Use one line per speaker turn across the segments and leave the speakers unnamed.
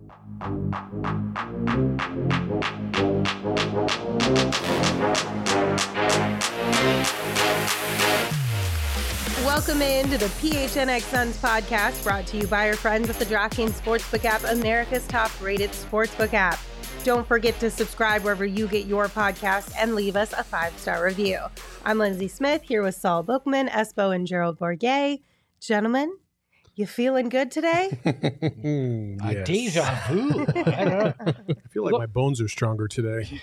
Welcome into the PHNX Suns podcast, brought to you by our friends at the DraftKings Sportsbook app, America's top-rated sportsbook app. Don't forget to subscribe wherever you get your podcast and leave us a 5-star review. I'm Lindsay Smith here with Saul Bookman, Espo, and Gerald Bourguet. Gentlemen, you feeling good today?
Yes.
Deja vu. I don't know.
I feel like my bones are stronger today.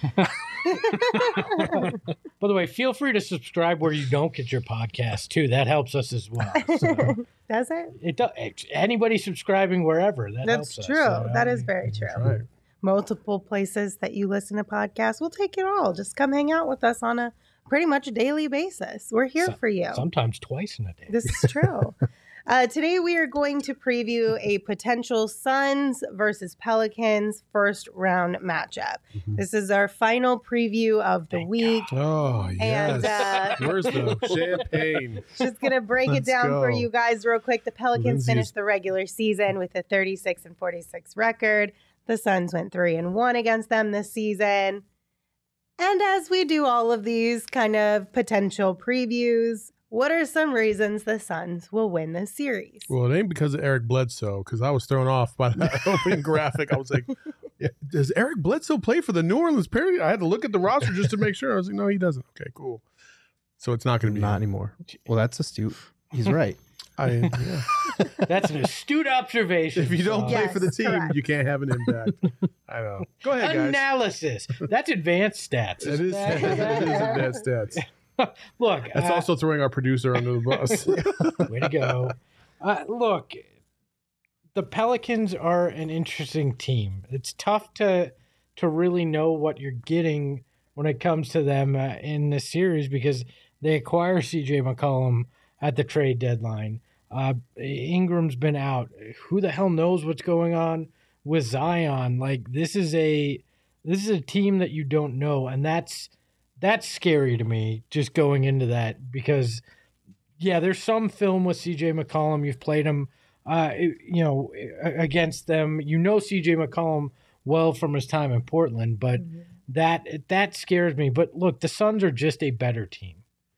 By the way, feel free to subscribe where you don't get your podcast too. That helps us as well. So
Does it?
it does. Anybody subscribing wherever, that
That's
helps
true.
us. So,
That is very true.
Right.
Multiple places that you listen to podcasts. We'll take it all. Just come hang out with us on a pretty much daily basis. We're here for you.
Sometimes twice in a day.
This is true. Today we are going to preview a potential Suns versus Pelicans first round matchup.
Mm-hmm.
This is our final preview of the week.
Oh, yes.
And
Where's the champagne?
just going to break it
Let's
down for
go.
you guys real quick. The Pelicans
Lindsay's-
finished the regular season with a 36-46 record. The Suns went 3-1 against them this season. And as we do all of these kind of potential previews, what are some reasons the Suns will win this series?
Well, it ain't because of Eric Bledsoe, because I was thrown off by that opening graphic. I was like, does Eric Bledsoe play for the New Orleans Pelicans? I had to look at the roster just to make sure. I was like, no, he doesn't. Okay, cool. So it's not going to be
Not
him.
anymore. Well, that's astute. He's right.
Yeah.
That's an astute observation.
If you don't play
Yes,
for the team,
correct.
you can't have an impact. I know. Go ahead, guys.
Analysis. That's advanced stats.
It is advanced stats.
Look,
That's also throwing our producer under the bus.
way to go. Look, the Pelicans are an interesting team. It's tough to really know what you're getting when it comes to them in this series because they acquire C.J. McCollum at the trade deadline. Ingram's been out. Who the hell knows what's going on with Zion? Like this is a team that you don't know, and that's scary to me just going into that because yeah, there's some film with CJ McCollum. You've played him against them. You know CJ McCollum well from his time in Portland, but that scares me. But look, the Suns are just a better team.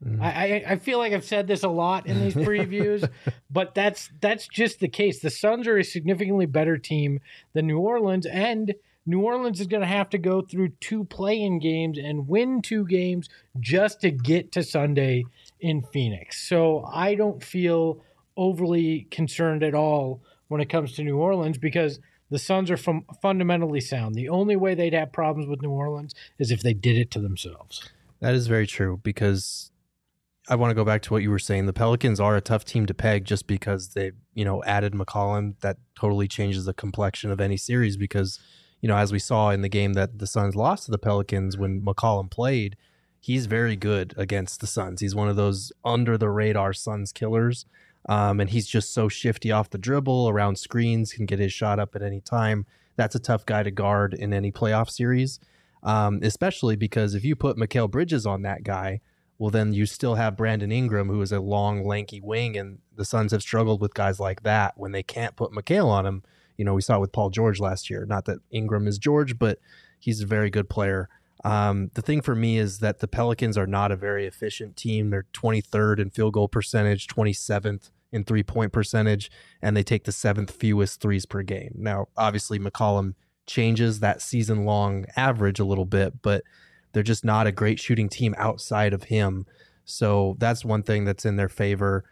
I feel like I've said this a lot in these previews, but that's just the case. The Suns are a significantly better team than New Orleans, and New Orleans is going to have to go through 2 play-in games and win 2 games just to get to Sunday in Phoenix. So I don't feel overly concerned at all when it comes to New Orleans because the Suns are fundamentally sound. The only way they'd have problems with New Orleans is if they did it to themselves.
That is very true because I want to go back to what you were saying. The Pelicans are a tough team to peg just because they, added McCollum. That totally changes the complexion of any series because, as we saw in the game that the Suns lost to the Pelicans when McCollum played, he's very good against the Suns. He's one of those under-the-radar Suns killers, and he's just so shifty off the dribble, around screens, can get his shot up at any time. That's a tough guy to guard in any playoff series, especially because if you put Mikal Bridges on that guy, well, then you still have Brandon Ingram, who is a long, lanky wing, and the Suns have struggled with guys like that when they can't put Mikal on him. We saw it with Paul George last year. Not that Ingram is George, but he's a very good player. The thing for me is that the Pelicans are not a very efficient team. They're 23rd in field goal percentage, 27th in three-point percentage, and they take the 7th fewest threes per game. Now, obviously, McCollum changes that season-long average a little bit, but they're just not a great shooting team outside of him. So that's one thing that's in their favor.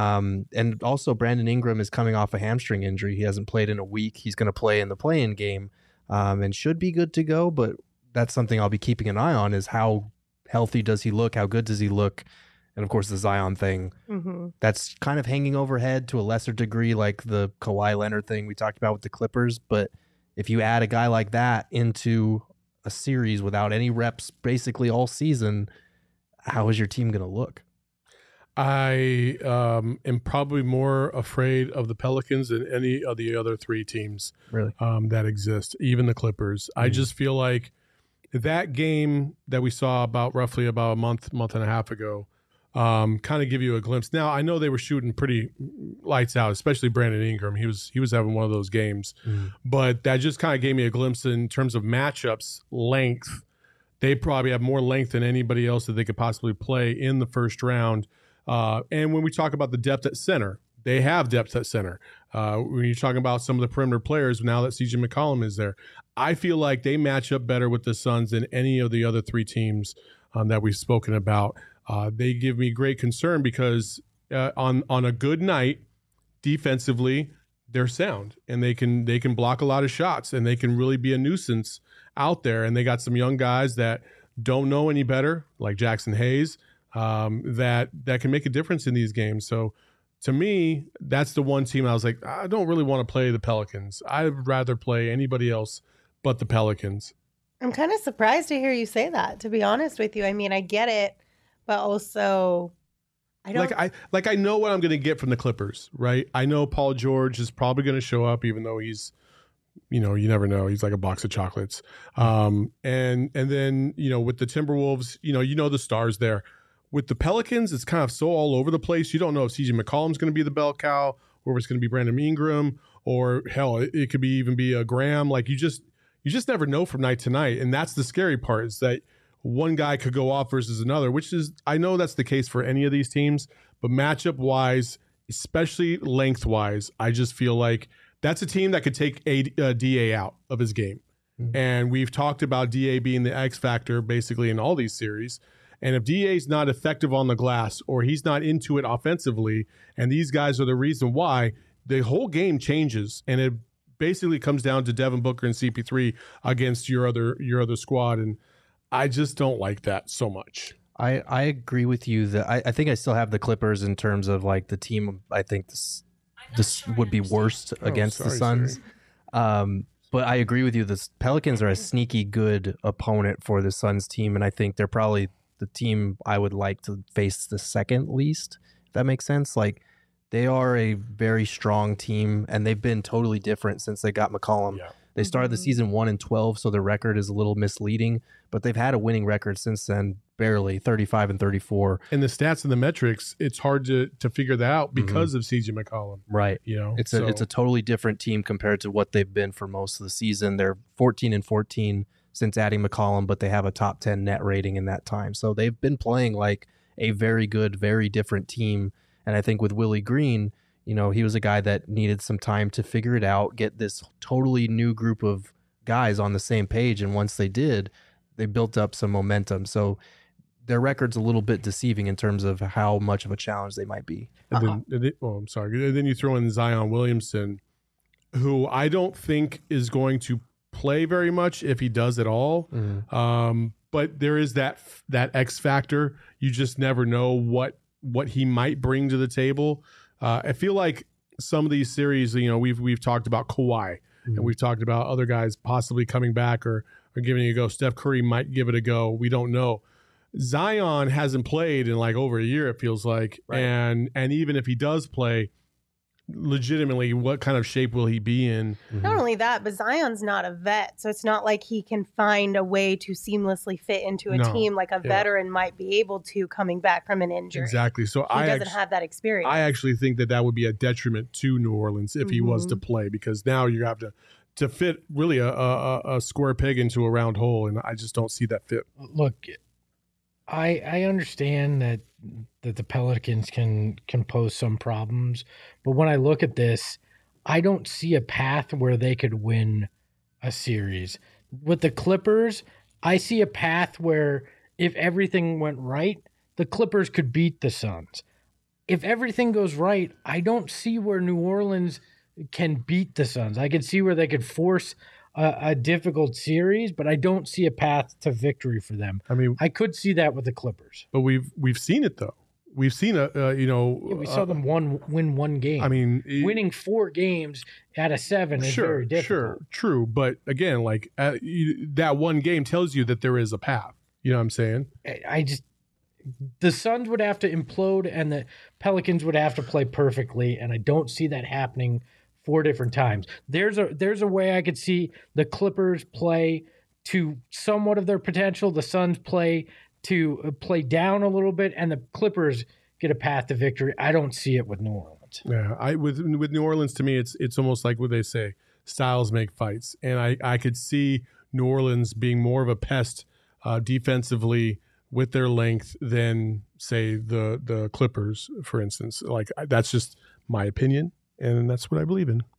And also Brandon Ingram is coming off a hamstring injury. He hasn't played in a week. He's going to play in the play-in game and should be good to go. But that's something I'll be keeping an eye on is how healthy does he look? How good does he look? And of course the Zion thing, that's kind of hanging overhead to a lesser degree, like the Kawhi Leonard thing we talked about with the Clippers. But if you add a guy like that into a series without any reps basically all season, how is your team going to look?
I am probably more afraid of the Pelicans than any of the other 3 teams
Really?
that exist, even the Clippers. I just feel like that game that we saw roughly about a month and a half ago, kind of give you a glimpse. Now, I know they were shooting pretty lights out, especially Brandon Ingram. He was having one of those games. But that just kind of gave me a glimpse in terms of matchups, length. They probably have more length than anybody else that they could possibly play in the first round. And when we talk about the depth at center, they have depth at center. When you're talking about some of the perimeter players, now that CJ McCollum is there, I feel like they match up better with the Suns than any of the other three teams that we've spoken about. They give me great concern because on a good night, defensively, they're sound and they can block a lot of shots and they can really be a nuisance out there. And they got some young guys that don't know any better, like Jackson Hayes, that can make a difference in these games. So to me, that's the one team I was like, I don't really want to play the Pelicans. I'd rather play anybody else but the Pelicans.
I'm kind of surprised to hear you say that, to be honest with you. I mean, I get it, but also I don't
I know what I'm going to get from the Clippers, right? I know Paul George is probably going to show up, even though he's, you never know. He's like a box of chocolates. And then, with the Timberwolves, the stars there. With the Pelicans, it's kind of so all over the place. You don't know if CJ McCollum's going to be the bell cow or if it's going to be Brandon Ingram or hell, it could even be a Graham. Like you just never know from night to night. And that's the scary part is that one guy could go off versus another, which is, I know that's the case for any of these teams, but matchup wise, especially lengthwise, I just feel like that's a team that could take DA out of his game. Mm-hmm. And we've talked about DA being the X factor basically in all these series. And if DA's not effective on the glass or he's not into it offensively, and these guys are the reason why, the whole game changes. And it basically comes down to Devin Booker and CP3 against your other squad. And I just don't like that so much.
I agree with you that I think I still have the Clippers in terms of like the team. I think this would be worst against the Suns. But I agree with you. The Pelicans are a sneaky good opponent for the Suns team. And I think they're probably the team I would like to face the second least, if that makes sense. Like they are a very strong team and they've been totally different since they got McCollum. Yeah. They started the season 1-12, so their record is a little misleading, but they've had a winning record since then, barely 35-34.
And the stats and the metrics, it's hard to figure that out because of CJ McCollum.
Right. It's a totally different team compared to what they've been for most of the season. They're 14-14 since adding McCollum, but they have a top 10 net rating in that time. So they've been playing like a very good, very different team. And I think with Willie Green, he was a guy that needed some time to figure it out, get this totally new group of guys on the same page. And once they did, they built up some momentum. So their record's a little bit deceiving in terms of how much of a challenge they might be.
And then you throw in Zion Williamson, who I don't think is going to play very much if he does at all. But there is that X factor. You just never know what he might bring to the table. I feel like some of these series, we've talked about Kawhi and we've talked about other guys possibly coming back or giving it a go. Steph Curry might give it a go. We don't know. Zion hasn't played in like over a year, it feels like. Right. And even if he does play, legitimately, what kind of shape will he be in?
Not only that, but Zion's not a vet, so it's not like he can find a way to seamlessly fit into a team like a veteran might be able to coming back from an injury.
Exactly. So
he doesn't have that experience.
I actually think that would be a detriment to New Orleans if he was to play, because now you have to fit really a square peg into a round hole, and I just don't see that fit.
Look, I understand that the Pelicans can pose some problems, but when I look at this, I don't see a path where they could win a series. With the Clippers, I see a path where if everything went right, the Clippers could beat the Suns. If everything goes right, I don't see where New Orleans can beat the Suns. I could see where they could force a difficult series, but I don't see a path to victory for them. I mean, I could see that with the Clippers,
but we've seen it though. We've seen
we saw them win one game.
I mean,
winning 4 games out of 7 is very difficult.
Sure, true, but again, like that one game tells you that there is a path. You know what I'm saying?
The Suns would have to implode, and the Pelicans would have to play perfectly, and I don't see that happening 4 different times. There's a way I could see the Clippers play to somewhat of their potential, the Suns play to play down a little bit, and the Clippers get a path to victory. I don't see it with New Orleans.
Yeah, with New Orleans, to me, it's almost like what they say: styles make fights, and I could see New Orleans being more of a pest defensively with their length than, say, the Clippers, for instance. Like, that's just my opinion, and that's what I believe in.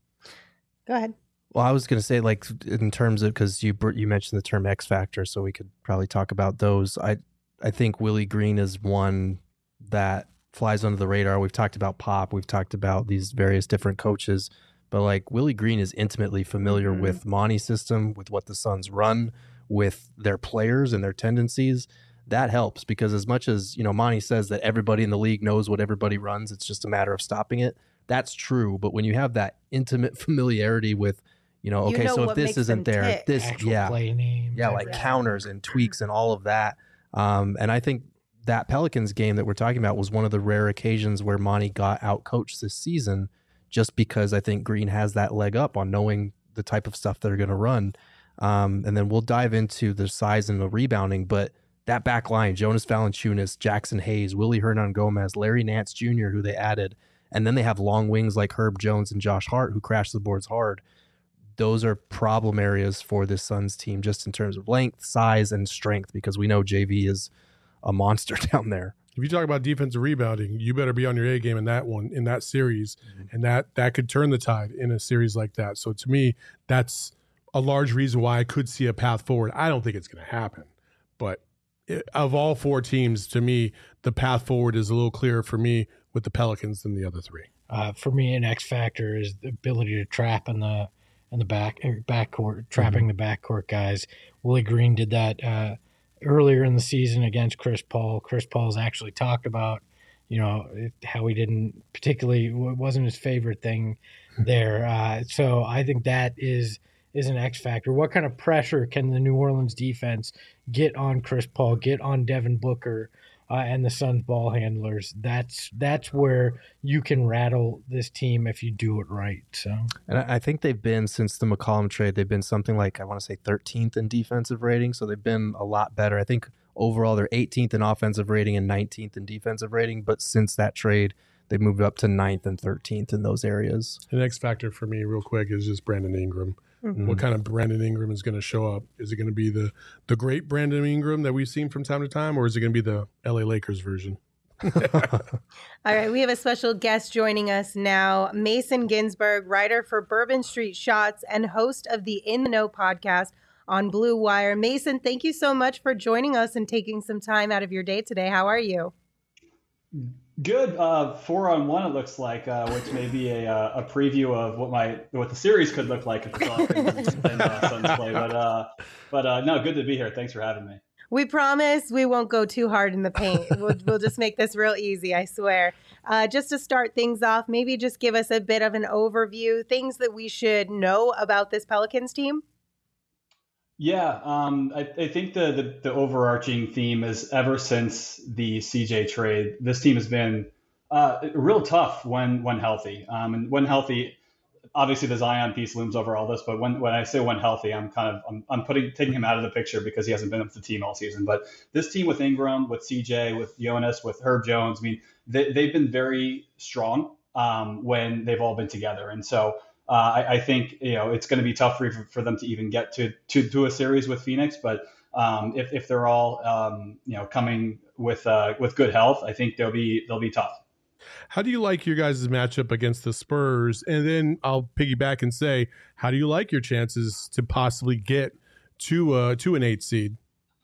Go ahead.
Well, I was going to say, like, in terms of, because you mentioned the term X factor, so we could probably talk about those. I think Willie Green is one that flies under the radar. We've talked about Pop. We've talked about these various different coaches. But, like, Willie Green is intimately familiar with Monty's system, with what the Suns run, with their players and their tendencies. That helps, because as much as, Monty says that everybody in the league knows what everybody runs, it's just a matter of stopping it. That's true. But when you have that intimate familiarity with, okay, so if this isn't there,
tick.
this,
Play names,
like counters and tweaks and all of that. And I think that Pelicans game that we're talking about was one of the rare occasions where Monty got out-coached this season, just because I think Green has that leg up on knowing the type of stuff they're going to run. And then we'll dive into the size and the rebounding, but that back line, Jonas Valanciunas, Jackson Hayes, Willie Hernan-Gomez, Larry Nance Jr., who they added, and then they have long wings like Herb Jones and Josh Hart, who crash the boards hard. Those are problem areas for this Suns team, just in terms of length, size, and strength, because we know JV is a monster down there.
If you talk about defensive rebounding, you better be on your A game in that series, and that could turn the tide in a series like that. So to me, that's a large reason why I could see a path forward. I don't think it's going to happen, but of all four teams, to me, the path forward is a little clearer for me with the Pelicans than the other three.
For me, an X factor is the ability to trap in the backcourt, trapping the backcourt guys. Willie Green did that earlier in the season against Chris Paul. Chris Paul's actually talked about, how he didn't particularly, wasn't his favorite thing there. So I think that is an X factor. What kind of pressure can the New Orleans defense get on Chris Paul, get on Devin Booker, and the Suns ball handlers? That's where you can rattle this team if you do it right. So,
and I think they've been, since the McCollum trade, they've been something like, I want to say 13th in defensive rating. So they've been a lot better. I think overall they're 18th in offensive rating and 19th in defensive rating. But since that trade, they've moved up to 9th and 13th in those areas.
The next factor for me, real quick, is just Brandon Ingram. What kind of Brandon Ingram is going to show up? Is it going to be the great Brandon Ingram that we've seen from time to time, or is it going to be the LA Lakers version?
All right, we have a special guest joining us now, Mason Ginsberg, writer for Bourbon Street Shots and host of the In the Know podcast on Blue Wire. Mason, thank you so much for joining us and taking some time out of your day today. How are you?
Good. 4-on-1 it looks like, which may be a preview of what the series could look like if the Pelicans and Suns play. But no, good to be here. Thanks for having me.
We promise we won't go too hard in the paint. We'll just make this real easy, I swear. Just to start things off, maybe just give us a bit of an overview, things that we should know about this Pelicans team.
Yeah, I think the overarching theme is, ever since the CJ trade, this team has been real tough when healthy. And when healthy, obviously the Zion piece looms over all this. But when I say when healthy, I'm taking him out of the picture because he hasn't been with the team all season. But this team with Ingram, with CJ, with Jonas, with Herb Jones, I mean, they've been very strong when they've all been together. And so I think it's going to be tough for them to even get to a series with Phoenix, but if they're all coming with good health, I think they'll be tough.
How do you like your guys' matchup against the Spurs? And then I'll piggyback and say, how do you like your chances to possibly get to an 8 seed?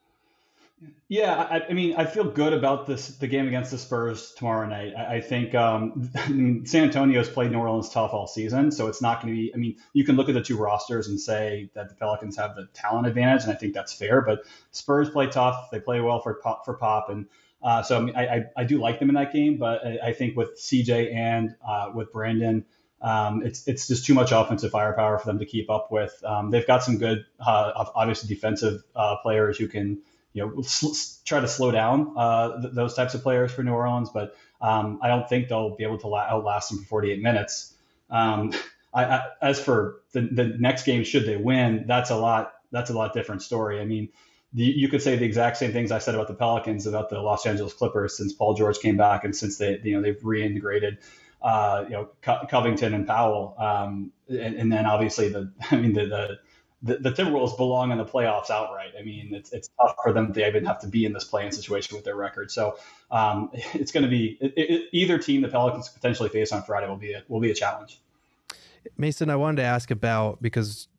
Yeah, I mean, I feel good about the game against the Spurs tomorrow night. I think San Antonio's played New Orleans tough all season, so it's not going to be. I mean, you can look at the two rosters and say that the Pelicans have the talent advantage, and I think that's fair. But Spurs play tough; they play well for Pop, and so I mean, I do like them in that game. But I think with CJ and with Brandon, it's just too much offensive firepower for them to keep up with. They've got some good, obviously defensive players who can try to slow down those types of players for New Orleans, but I don't think they'll be able to outlast them for 48 minutes. As for the next game, should they win, that's a lot different story. I mean, you could say the exact same things I said about the Pelicans, about the Los Angeles Clippers since Paul George came back and since they've reintegrated, Covington and Powell. And then obviously the Timberwolves belong in the playoffs outright. I mean, it's tough for them to even have to be in this play-in situation with their record. So it's going to be either team the Pelicans potentially face on Friday will be a challenge.
Mason, I wanted to ask about, because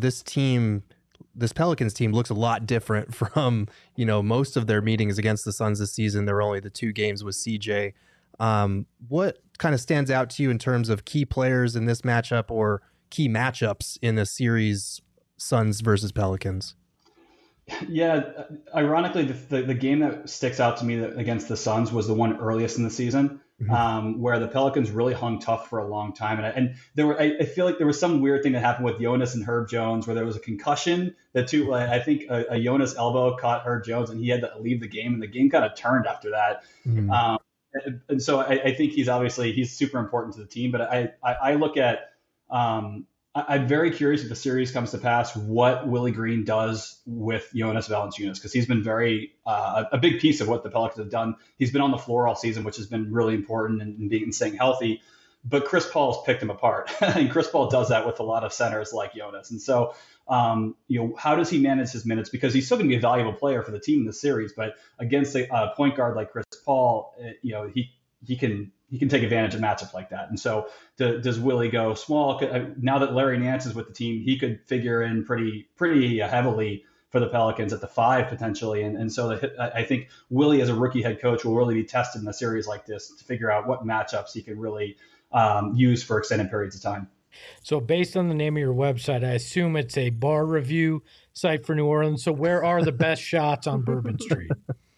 this Pelicans team looks a lot different from most of their meetings against the Suns this season. There were only the 2 games with CJ. What kind of stands out to you in terms of key players in this matchup or key matchups in the series, Suns versus Pelicans?
Yeah, ironically, the game that sticks out to me against the Suns was the one earliest in the season, where the Pelicans really hung tough for a long time. And I feel like there was some weird thing that happened with Jonas and Herb Jones, where there was a concussion. I think a Jonas elbow caught Herb Jones, and he had to leave the game, and the game kind of turned after that. And so I think he's super important to the team. But I look at I'm very curious if the series comes to pass what Willie Green does with Jonas Valanciunas, because he's been very a big piece of what the Pelicans have done. He's been on the floor all season, which has been really important in staying healthy. But Chris Paul's picked him apart, and Chris Paul does that with a lot of centers like Jonas. And so, how does he manage his minutes? Because he's still going to be a valuable player for the team in the series, but against a point guard like Chris Paul, he can take advantage of matchups like that. And so does Willie go small? Now that Larry Nance is with the team, he could figure in pretty heavily for the Pelicans at the 5 potentially. And so I think Willie as a rookie head coach will really be tested in a series like this to figure out what matchups he can really use for extended periods of time.
So based on the name of your website, I assume it's a bar review site for New Orleans. So where are the best shots on Bourbon Street?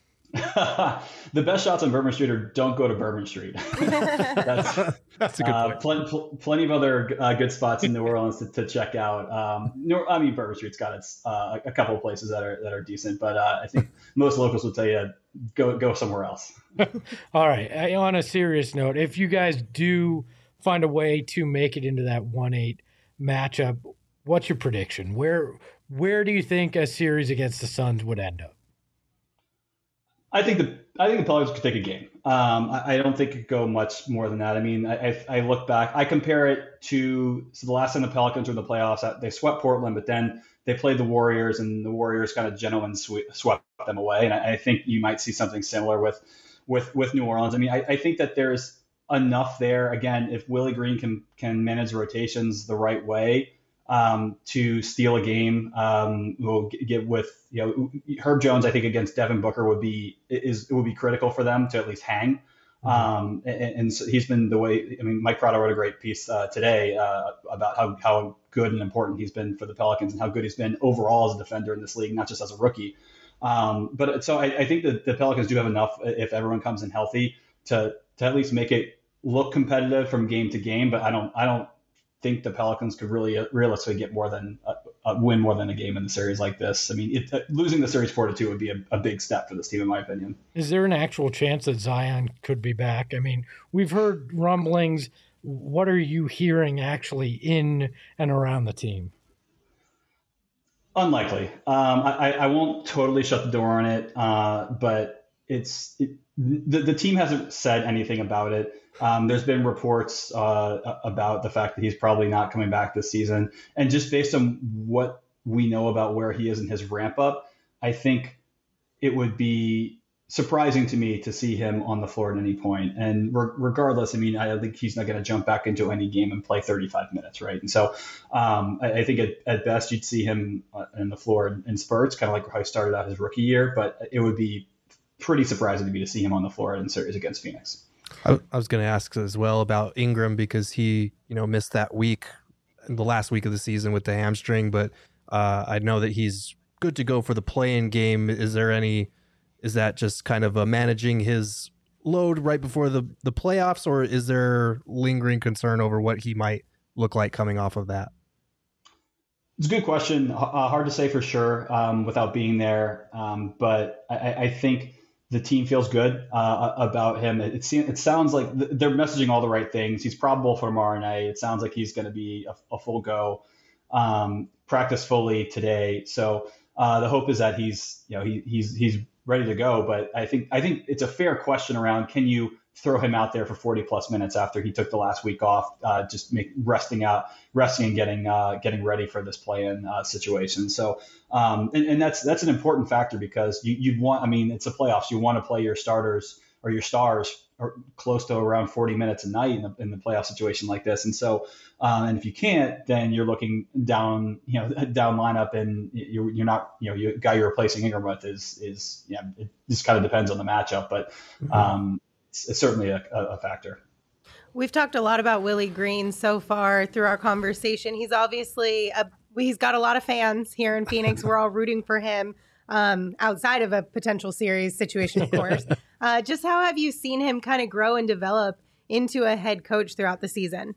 The best shots on Bourbon Street are don't go to Bourbon Street. That's
a good point.
Plenty of other good spots in New Orleans to check out. Bourbon Street's got a couple of places that are decent, but I think most locals will tell you go somewhere else.
All right. On a serious note, if you guys do find a way to make it into that 1-8 matchup, what's your prediction? Where do you think a series against the Suns would end up?
I think the Pelicans could take a game. I don't think it could go much more than that. I mean, I look back, I compare it to the last time the Pelicans were in the playoffs. They swept Portland, but then they played the Warriors, and the Warriors kind of gentlemen swept them away. And I think you might see something similar with New Orleans. I mean, I think that there's enough there. Again, if Willie Green can manage rotations the right way, to steal a game, we'll get with Herb Jones. I think against Devin Booker would be critical for them to at least hang. And so he's been the way. I mean, Mike Prado wrote a great piece today about how good and important he's been for the Pelicans and how good he's been overall as a defender in this league, not just as a rookie. But so I think that the Pelicans do have enough if everyone comes in healthy to at least make it look competitive from game to game. But I don't think the Pelicans could really realistically get more than win more than a game in the series like this. I mean, losing the series 4-2 would be a big step for this team, in my opinion.
Is there an actual chance that Zion could be back? I mean, we've heard rumblings. What are you hearing actually in and around the team?
Unlikely. I won't totally shut the door on it, but the team hasn't said anything about it. There's been reports about the fact that he's probably not coming back this season. And just based on what we know about where he is in his ramp up, I think it would be surprising to me to see him on the floor at any point. And regardless, I mean, I think he's not going to jump back into any game and play 35 minutes, right? And so I think at best you'd see him on the floor in spurts, kind of like how he started out his rookie year. But it would be pretty surprising to me to see him on the floor in series against Phoenix.
I was going to ask as well about Ingram, because he, missed that week, the last week of the season with the hamstring, but I know that he's good to go for the play-in game. Is that just kind of managing his load right before the playoffs, or is there lingering concern over what he might look like coming off of that?
It's a good question. Hard to say for sure without being there. But I think the team feels good about him. It sounds like they're messaging all the right things. He's probable for tomorrow night. It sounds like he's going to be a full go, practice fully today. So The hope is that he's ready to go. But I think it's a fair question around, can you throw him out there for 40 plus minutes after he took the last week off, resting and getting ready for this play-in situation. So, and that's an important factor, because you'd want, I mean, it's the playoffs. You want to play your starters or your stars or close to around 40 minutes a night in the playoff situation like this. And so, and if you can't, then you're looking down lineup, and you're not, you guy you're replacing Ingram with is it just kind of depends on the matchup, but it's certainly a factor.
We've talked a lot about Willie Green so far through our conversation. He's obviously he's got a lot of fans here in Phoenix. We're all rooting for him, outside of a potential series situation, of course. Just how have you seen him kind of grow and develop into a head coach throughout the season?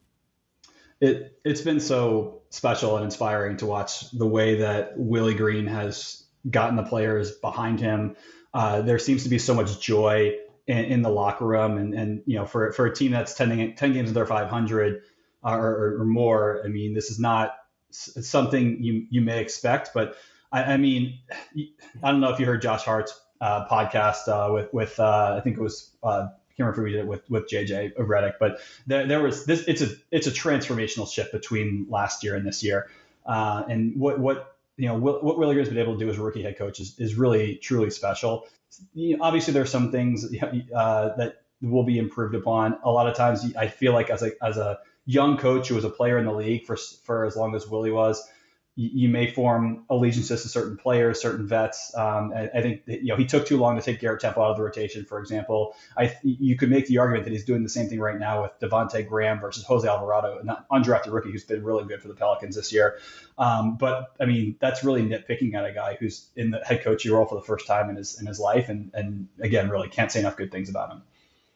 It's been so special and inspiring to watch the way that Willie Green has gotten the players behind him. There seems to be so much joy in the locker room, and for a team that's 10 games under 500 or more. I mean, this is not something you may expect, but I mean, I don't know if you heard Josh Hart's podcast with I think it was I can't remember who we did it with JJ Redick, but there was this. It's a transformational shift between last year and this year, and what Willie Green's been able to do as a rookie head coach is really truly special. Obviously, there are some things that will be improved upon. A lot of times, I feel like as a young coach who was a player in the league for as long as Willie was, you may form allegiances to certain players, certain vets. I think that, he took too long to take Garrett Temple out of the rotation, for example. You could make the argument that he's doing the same thing right now with Devontae Graham versus Jose Alvarado, an undrafted rookie who's been really good for the Pelicans this year. But I mean, that's really nitpicking at a guy who's in the head coaching role for the first time in his life, and again, really can't say enough good things about him.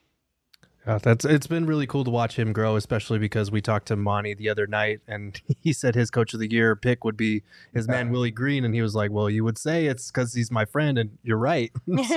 It's been really cool to watch him grow, especially because we talked to Monty the other night, and he said his coach of the year pick would be his man Willie Green, and he was like, "Well, you would say it's because he's my friend," and you're right.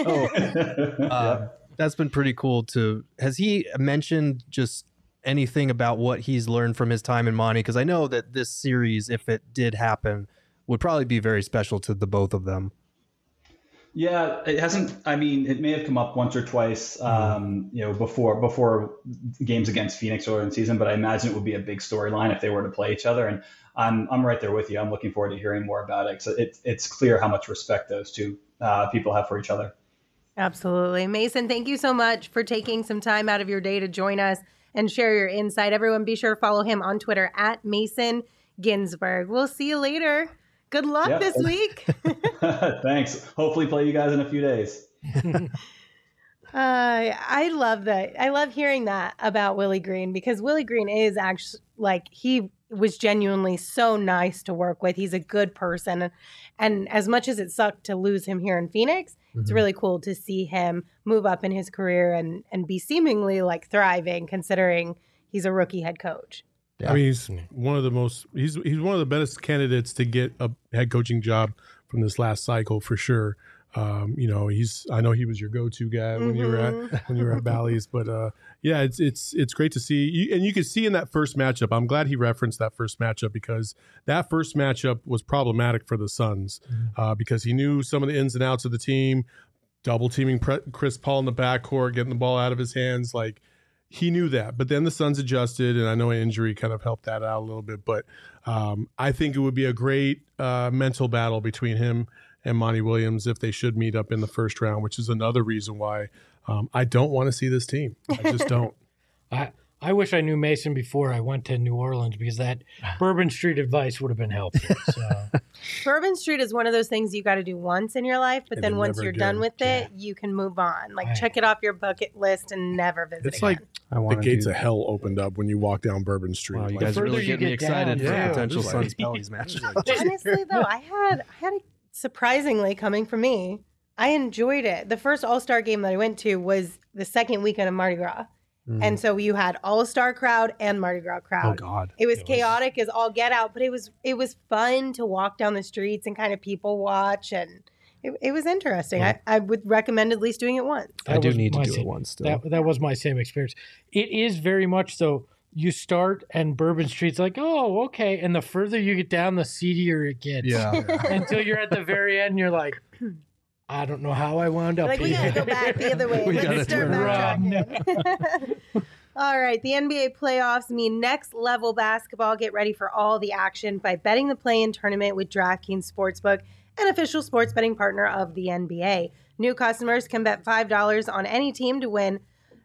So that's been pretty cool. Has he mentioned just anything about what he's learned from his time in Monty? Because I know that this series, if it did happen, would probably be very special to the both of them.
Yeah, it hasn't. I mean, it may have come up once or twice, before games against Phoenix earlier in the season, but I imagine it would be a big storyline if they were to play each other. And I'm right there with you. I'm looking forward to hearing more about it. So it's clear how much respect those two people have for each other.
Absolutely. Mason, thank you so much for taking some time out of your day to join us and share your insight. Everyone, be sure to follow him on Twitter at Mason Ginsberg. We'll see you later. Good luck this week.
Thanks. Hopefully play you guys in a few days.
I love that. I love hearing that about Willie Green, because Willie Green is actually, he was genuinely so nice to work with. He's a good person. And as much as it sucked to lose him here in Phoenix, it's really cool to see him move up in his career and be seemingly thriving, considering he's a rookie head coach.
Yeah. I mean, he's one of the best candidates to get a head coaching job from this last cycle for sure. I know he was your go-to guy when you were at Bally's, but it's great to see. And you can see in that first matchup, I'm glad he referenced that first matchup, because that first matchup was problematic for the Suns, because he knew some of the ins and outs of the team, double teaming Chris Paul in the backcourt, getting the ball out of his hands, he knew that. But then the Suns adjusted, and I know an injury kind of helped that out a little bit. But I think it would be a great mental battle between him and Monty Williams if they should meet up in the first round, which is another reason why I don't want to see this team. I just don't.
I wish I knew Mason before I went to New Orleans, because that Bourbon Street advice would have been helpful. So.
Bourbon Street is one of those things you got to do once in your life, but and then once you're done with it, you can move on. Check it off your bucket list and never visit
it's
again.
The gates of hell opened up when you walk down Bourbon Street.
Wow, you guys really get me excited for potential Suns Pelicans match.
Honestly, though, I had a surprisingly, coming from me, I enjoyed it. The first All-Star game that I went to was the second weekend of Mardi Gras. And so you had All-Star crowd and Mardi Gras crowd.
Oh God.
It was chaotic as all get out, but it was fun to walk down the streets and kind of people watch, and it was interesting. Yeah. I would recommend at least doing it once.
I do need to do it once still.
That was my same experience. It is very much so you start and Bourbon Street's like, oh, okay. And the further you get down, the seedier it gets.
Yeah.
Until you're at the very end, you're like, I don't know how I wound up
Like, we
here.
gotta go back the other way.
We
Let's
gotta
start
turn
backtracking. All right, the NBA playoffs mean next level basketball. Get ready for all the action by betting the play-in tournament with DraftKings Sportsbook, an official sports betting partner of the NBA. New customers can bet $5 on any team to win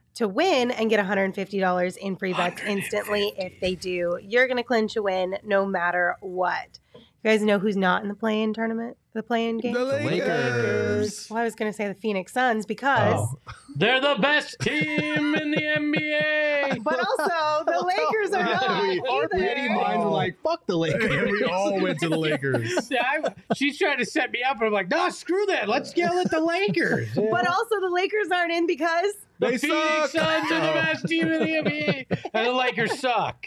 and get $150 in free bets instantly. If they do, you're going to clinch a win no matter what. You guys know who's not in the play-in tournament, the play-in game?
The Lakers.
Well, I was going to say the Phoenix Suns because...
They're the best team in the NBA.
But also, the Lakers are not
Our petty
either.
minds were like, fuck the Lakers.
And we all went to the Lakers.
She's trying to set me up, and I'm like, no, screw that. Let's yell at the Lakers.
But also, the Lakers aren't in because
The
They
Phoenix
suck.
Suns are the best team in the NBA, and the Lakers suck.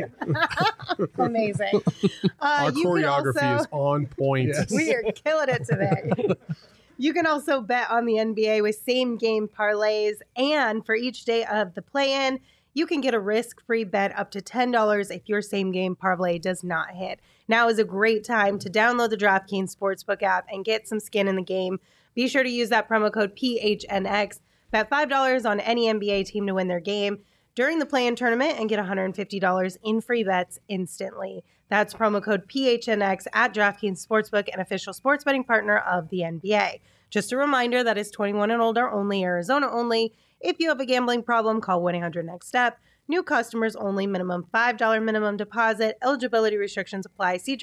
amazing.
Our
You can
choreography
also,
is on point.
we are killing it today. You can also bet on the NBA with same game parlays, and for each day of the play-in, you can get a risk-free bet up to $10 if your same game parlay does not hit. Now is a great time to download the DraftKings Sportsbook app and get some skin in the game. Be sure to use that promo code PHNX. Bet $5 on any NBA team to win their game during the play-in tournament and get $150 in free bets instantly. That's promo code PHNX at DraftKings Sportsbook, an official sports betting partner of the NBA. Just a reminder that is 21 and older only, Arizona only. If you have a gambling problem, call 1-800-NEXT-STEP. New customers only, minimum $5 minimum deposit. Eligibility restrictions apply. See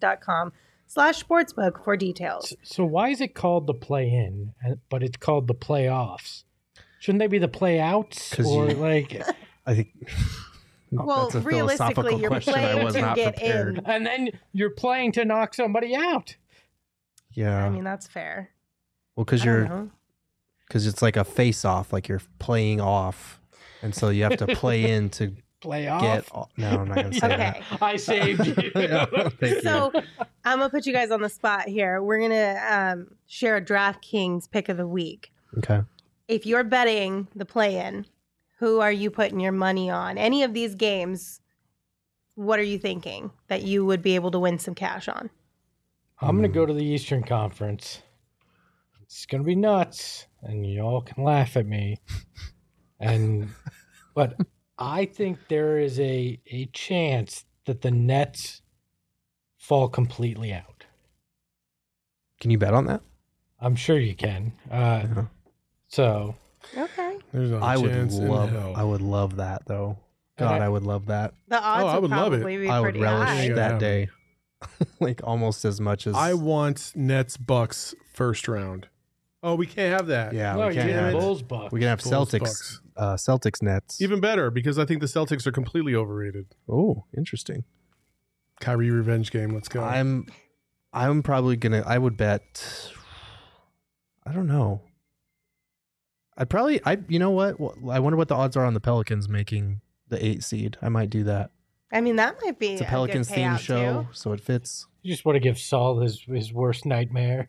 DraftKings.com/sportsbook for details.
So why is it called the play-in, but it's called the playoffs? Shouldn't they be the play-outs?
'Cause
Or
you-
like,
I think
Well,
that's a
realistically,
philosophical
you're
question. I
playing
was
to
not
get
prepared.
in.
and then you're playing to knock somebody out.
Yeah.
I mean, that's fair.
Well, because
I don't
you're
know.
because it's like a face-off, like you're playing off, and so you have to play in to
Playoff.
get. No, I'm not gonna say
Okay.
I saved you.
Yeah, thank you.
So I'm going to put you guys on the spot here. We're going to share a DraftKings pick of the week.
that. Okay.
If you're betting the play-in, who are you putting your money on? Any of these games, what are you thinking that you would be able to win some cash on?
I'm going to go to the Eastern Conference. It's going to be nuts, and you all can laugh at me. But I think there is a chance that the Nets fall completely out.
Can you bet on that?
I'm sure you can.
Yeah.
So
Okay.
There's not a
I would
chance in
love.
hell.
I would love that though. God,
And
I would love that.
The odds
I would love it.
probably be
I would
pretty
relish
high.
Yeah.
that day, like almost as much as
I want Nets Bucks first round. Oh, we can't have that.
Yeah,
no,
we
you
can't
get
have
Bulls Bucks.
We can have
Bulls,
Celtics. Celtics Nets.
Even better because I think the Celtics are completely overrated.
Oh, interesting.
Kyrie revenge game. Let's go.
I'm probably gonna. I would bet. I don't know. You know what? I wonder what the odds are on the Pelicans making the 8 seed. I might do that.
I mean, that might be
It's a
a
Pelicans
good
theme
payout,
show,
too.
so it fits.
You just want to give Saul his worst nightmare.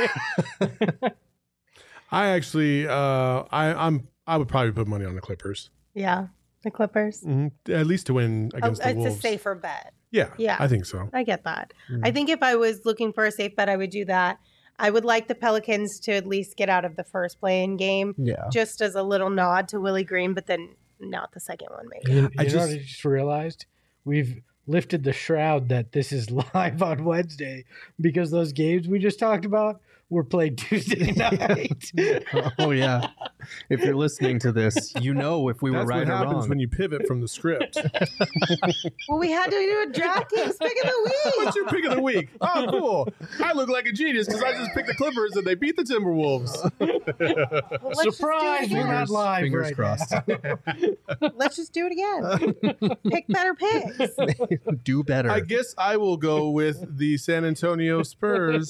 I actually, I would probably put money on the Clippers,
Yeah, the Clippers.
at least to win against the
It's
Wolves.
a safer bet.
Yeah,
Yeah.
I think so.
I get that.
Mm.
I think if I was looking for a safe bet, I would do that. I would like the Pelicans to at least get out of the first play-in game,
Yeah.
just as a little nod to Willie Green, but then not the second one, maybe.
You know
I
what
just-
I just realized? We've lifted the shroud that this is live on Wednesday because those games we just talked about were played Tuesday night.
Oh yeah. If you're listening to this, you know if we were
That's
right
what
or
happens
wrong.
when you pivot from the script.
Well, we had to do a DraftKings pick of the week.
What's your pick of the week? Oh, cool. I look like a genius because I just picked the Clippers and they beat the Timberwolves.
Well, let's just do it
Surprise! We're
again.
not live
Fingers
right
crossed.
now.
Let's just do it again. Pick better picks.
Do better.
I guess I will go with the San Antonio Spurs.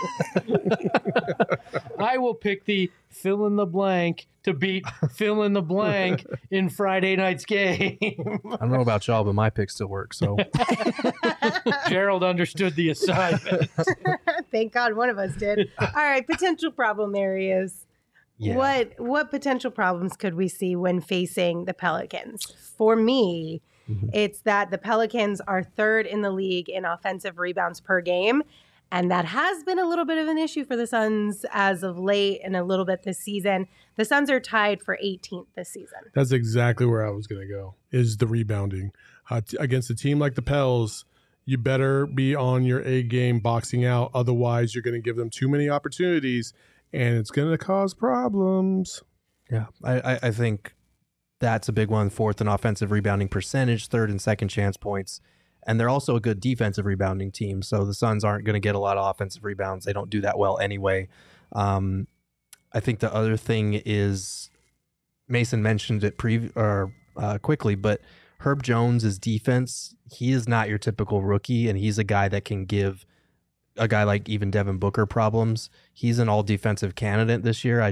I will pick the fill in the blank to beat fill in the blank in Friday night's game.
I don't know about y'all, but my pick still works. So
Gerald understood the assignment.
Thank God one of us did. All right, potential problem areas.
yeah.
What potential problems could we see when facing the Pelicans? For me, It's that the Pelicans are third in the league in offensive rebounds per game. And that has been a little bit of an issue for the Suns as of late and a little bit this season. The Suns are tied for 18th this season.
That's exactly where I was going to go, is the rebounding. Against a team like the Pels, you better be on your A game boxing out. Otherwise, you're going to give them too many opportunities, and it's going to cause problems.
Yeah, I think that's a big one. Fourth in offensive rebounding percentage, third in second chance points. And they're also a good defensive rebounding team. So the Suns aren't going to get a lot of offensive rebounds. They don't do that well anyway. I think the other thing is, Mason mentioned it quickly, but Herb Jones' defense, he is not your typical rookie, and he's a guy that can give a guy like even Devin Booker problems. He's an all-defensive candidate this year.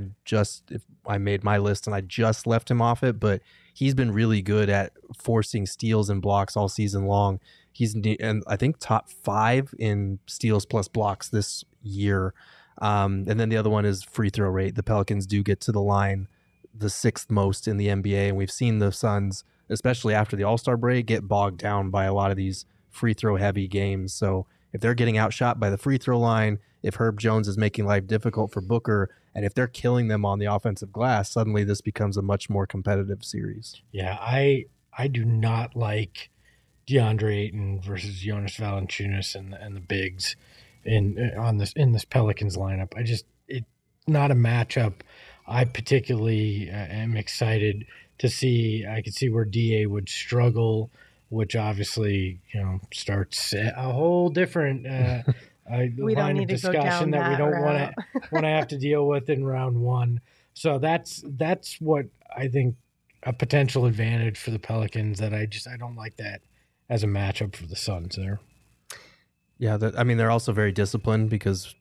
I made my list and I just left him off it, but he's been really good at forcing steals and blocks all season long. He's I think top 5 in steals plus blocks this year. And then the other one is free throw rate. The Pelicans do get to the line the 6th most in the NBA, and we've seen the Suns, especially after the All-Star break, get bogged down by a lot of these free throw heavy games. So if they're getting outshot by the free throw line, if Herb Jones is making life difficult for Booker, and if they're killing them on the offensive glass, suddenly this becomes a much more competitive series.
Yeah, I do not like DeAndre Ayton versus Jonas Valanciunas and the bigs in this Pelicans lineup. It's not a matchup I particularly am excited to see. I could see where DA would struggle, which obviously starts a whole different
we don't need to go down
that we don't
route.
want to have to deal with in round one. So that's what I think a potential advantage for the Pelicans, that I don't like that as a matchup for the Suns there.
Yeah, they're also very disciplined because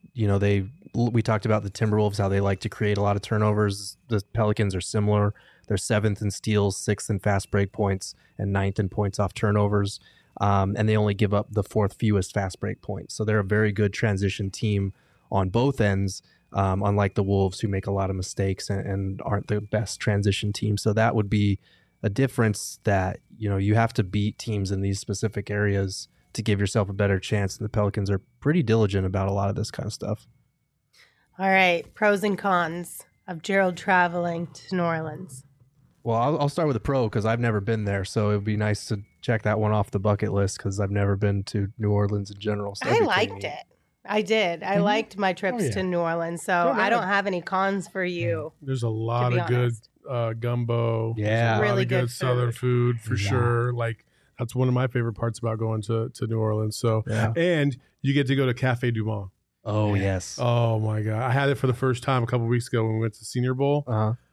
we talked about the Timberwolves, how they like to create a lot of turnovers. The Pelicans are similar. They're 7th in steals, 6th in fast break points, and 9th in points off turnovers. And they only give up the 4th fewest fast break points. So they're a very good transition team on both ends, unlike the Wolves, who make a lot of mistakes and aren't the best transition team. So that would be a difference that, you have to beat teams in these specific areas to give yourself a better chance. And the Pelicans are pretty diligent about a lot of this kind of stuff.
All right, pros and cons of Gerald traveling to New Orleans.
Well, I'll start with a pro because I've never been there. So it would be nice to check that one off the bucket list because I've never been to New Orleans in general. So
I liked it. I did. I liked my trips to New Orleans. So I don't have any cons for you.
There's a lot of good gumbo.
Yeah.
Really
good
good
Southern food for sure. Like, that's one of my favorite parts about going to New Orleans. So, and you get to go to Cafe Du Monde.
Oh, yes.
Oh, my God. I had it for the first time a couple weeks ago when we went to Senior Bowl.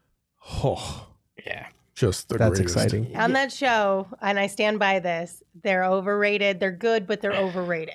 Oh,
yeah.
Just the
That's
greatest.
exciting.
On that show, and I stand by this, they're overrated. They're good, but they're overrated.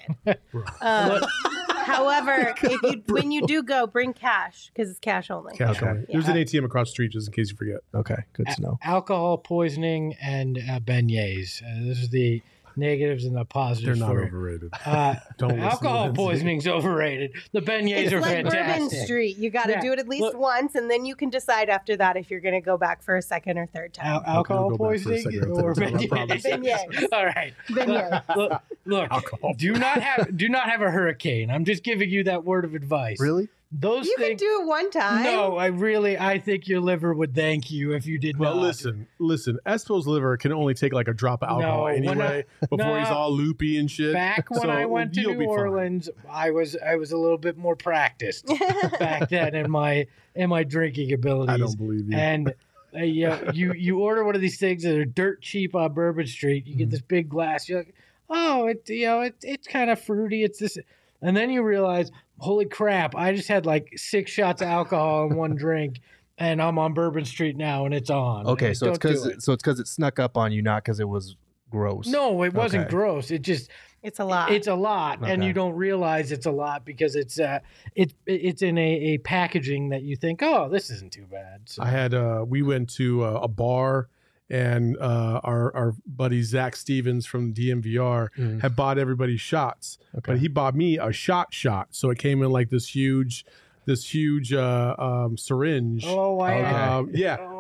However, when you do go, bring cash because it's cash only.
Cash
Okay.
only. There's an ATM across the street just in case you forget.
Okay, good to know.
Alcohol poisoning and beignets. This is the negatives and the positives.
They're not
for it.
overrated.
Don't
listen to
alcohol
Lindsay.
poisoning's overrated. The beignets
It's
are
like
fantastic.
Bourbon Street. You got to
Yeah.
do it at least
Look-
once, and then you can decide after that if you're going to go back for a second or third time.
Alcohol
I'll go back for a
poisoning
second or
or
third time, I promise.
beignets.
Beignets.
All right.
Beignets.
Look,
Alcohol.
do not have a hurricane. I'm just giving you that word of advice.
Really?
Those
You can
things.
do it one time.
No, I think your liver would thank you if you did
Well,
not.
listen. Espo's liver can only take like a drop of alcohol
No, when
anyway before he's all loopy and shit.
Back when
So
I went to
you'll be
New
fine.
Orleans, I was a little bit more practiced back then in my drinking abilities.
I don't believe you.
And you order one of these things that are dirt cheap on Bourbon Street. You get this big glass. You're like, oh, it's kind of fruity. It's this, and then you realize, holy crap! I just had like 6 shots of alcohol in one drink, and I'm on Bourbon Street now, and it's on.
Okay,
And
so it's
don't do
because it snuck up on you, not because it was gross.
No, it wasn't
Okay.
gross. It just
It's a lot.
it's a lot, and
Okay.
you don't realize it's a lot because it's in a packaging that you think, oh, this isn't too bad. So.
I had we went to a bar, and our buddy Zach Stevens from DMVR had bought everybody shots, but he bought me a shot. So it came in like this huge syringe.
Oh, I
Yeah.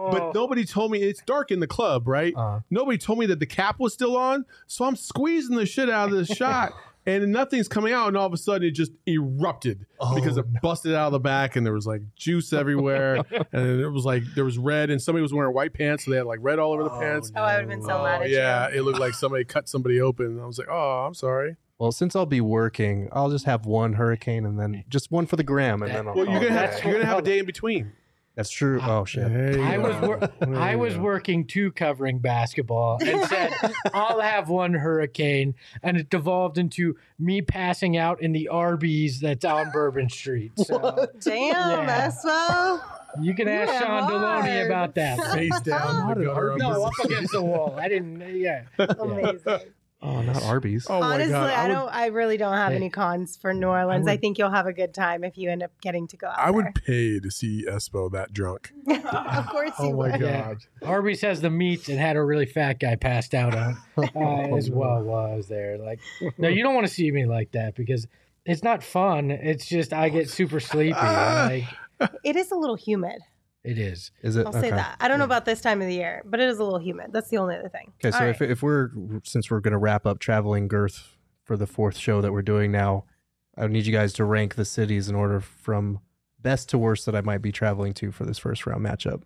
But nobody told me it's dark in the club, right? Nobody told me that the cap was still on. So I'm squeezing the shit out of this shot and nothing's coming out. And all of a sudden it just erupted because it busted out of the back and there was like juice everywhere. And it was like there was red and somebody was wearing white pants. So they had like red all over the pants.
Oh, I would have been so mad at you.
Yeah, it looked like somebody cut somebody open. And I was like, oh, I'm sorry.
Well, since I'll be working, I'll just have one hurricane and then just one for the gram, and then I'll.
Well, you're gonna have a day in between.
That's true. Oh shit!
I was working 2 covering basketball and said I'll have one hurricane, and it devolved into me passing out in the Arby's that's on Bourbon Street. So,
Damn, Espo.
You can ask Sean Deloney about that.
Face down.
No, up against the wall. I didn't. Yeah.
Amazing.
Oh, not Arby's.
Oh
Honestly,
my God.
I really don't have any cons for New Orleans. I think you'll have a good time if you end up getting to go out
I would
there.
pay to see Espo that drunk.
Of course you
Oh my
would.
God.
Arby's has the meats and had a really fat guy passed out on as well while I was there. Like, no, you don't want to see me like that because it's not fun. It's just I get super sleepy. Like,
It is a little humid.
it is.
Is it?
I'll say that. I don't know about this time of the year, but it is a little humid. That's the only other thing.
Okay, so
All right.
if we're since we're gonna wrap up traveling girth for the 4th show that we're doing now, I need you guys to rank the cities in order from best to worst that I might be traveling to for this first round matchup.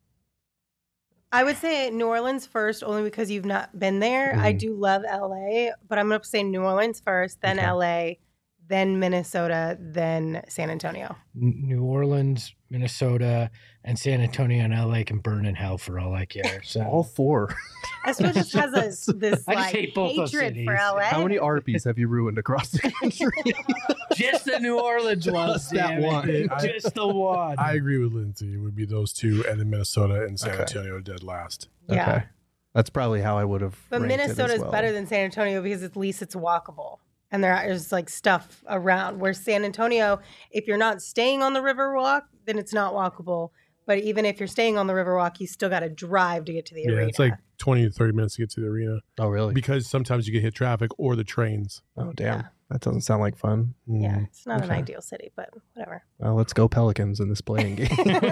I would say New Orleans first, only because you've not been there. I do love LA, but I'm going to say New Orleans first, then
Okay.
LA, then Minnesota, then San Antonio.
New Orleans, Minnesota, and San Antonio and LA can burn in hell for all I care. So
All 4.
Espo just has this
I just
like
hate both those
hatred for
cities.
LA.
How many Arby's have you ruined across the country?
just the New Orleans one.
Just that
damn it.
one.
Just the one.
I agree with Lindsay. It would be those 2 and then Minnesota and San
Okay.
Antonio dead last.
Yeah.
Okay. That's probably how I would have.
But
ranked it as
Minnesota is
well.
better than San Antonio because at least it's walkable. And there is like stuff around. Where San Antonio, if you're not staying on the Riverwalk, then it's not walkable. But even if you're staying on the Riverwalk, you still got to drive to get to the
Yeah,
arena.
it's like 20 to 30 minutes to get to the arena
Oh really?
because sometimes you can hit traffic or the trains.
Oh damn.
Yeah.
That doesn't sound like fun.
yeah, it's not an
Okay.
ideal city, but whatever.
Well, let's go Pelicans in this playing game.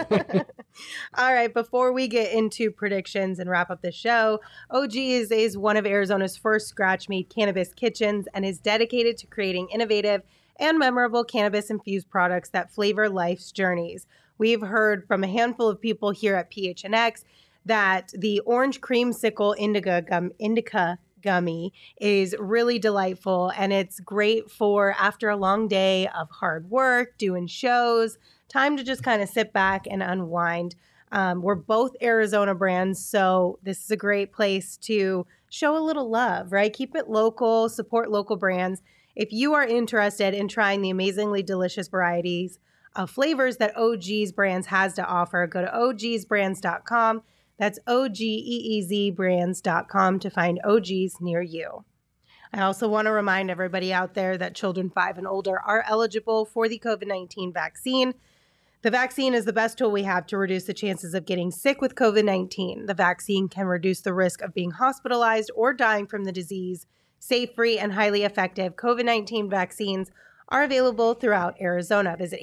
All right, before we get into predictions and wrap up the show, OG's is one of Arizona's first scratch-made cannabis kitchens and is dedicated to creating innovative and memorable cannabis-infused products that flavor life's journeys. We've heard from a handful of people here at PHNX that the orange creamsicle indica gummy is really delightful, and it's great for after a long day of hard work, doing shows, time to just kind of sit back and unwind. We're both Arizona brands, so this is a great place to show a little love, right? Keep it local, support local brands. If you are interested in trying the amazingly delicious varieties of flavors that OG's Brands has to offer, go to ogsbrands.com. That's OGEEZbrands.com to find OGs near you. I also want to remind everybody out there that children 5 and older are eligible for the COVID-19 vaccine. The vaccine is the best tool we have to reduce the chances of getting sick with COVID-19. The vaccine can reduce the risk of being hospitalized or dying from the disease. Safe, free, and highly effective COVID-19 vaccines are available throughout Arizona. Visit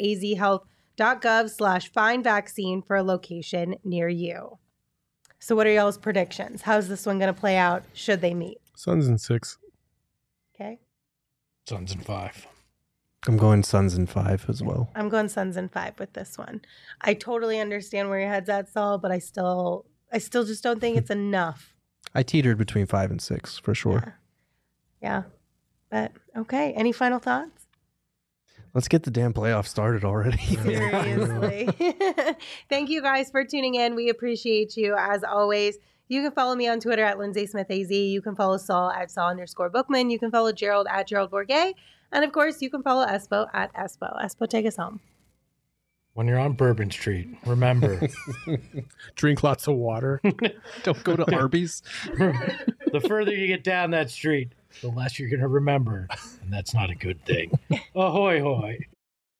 azhealth.gov/findvaccine for a location near you. So what are y'all's predictions? How's this one going to play out should they meet?
Suns in 6.
Okay.
Suns in 5.
I'm going Suns in 5 as well.
I'm going Suns in 5 with this one. I totally understand where your head's at, Saul, but I still just don't think it's enough.
I teetered between 5 and 6 for sure.
Yeah. But okay. Any final thoughts?
Let's get the damn playoffs started already.
Seriously. Thank you guys for tuning in. We appreciate you as always. You can follow me on Twitter at Lindsay Smith AZ. You can follow Saul at Saul_Bookman. You can follow Gerald at Gerald Bourget. And of course, you can follow Espo at Espo. Espo, take us home.
When you're on Bourbon Street, remember,
Drink lots of water.
Don't go to Arby's.
the further you get down that street, the less you're going to remember. And that's not a good thing. Ahoy, hoy.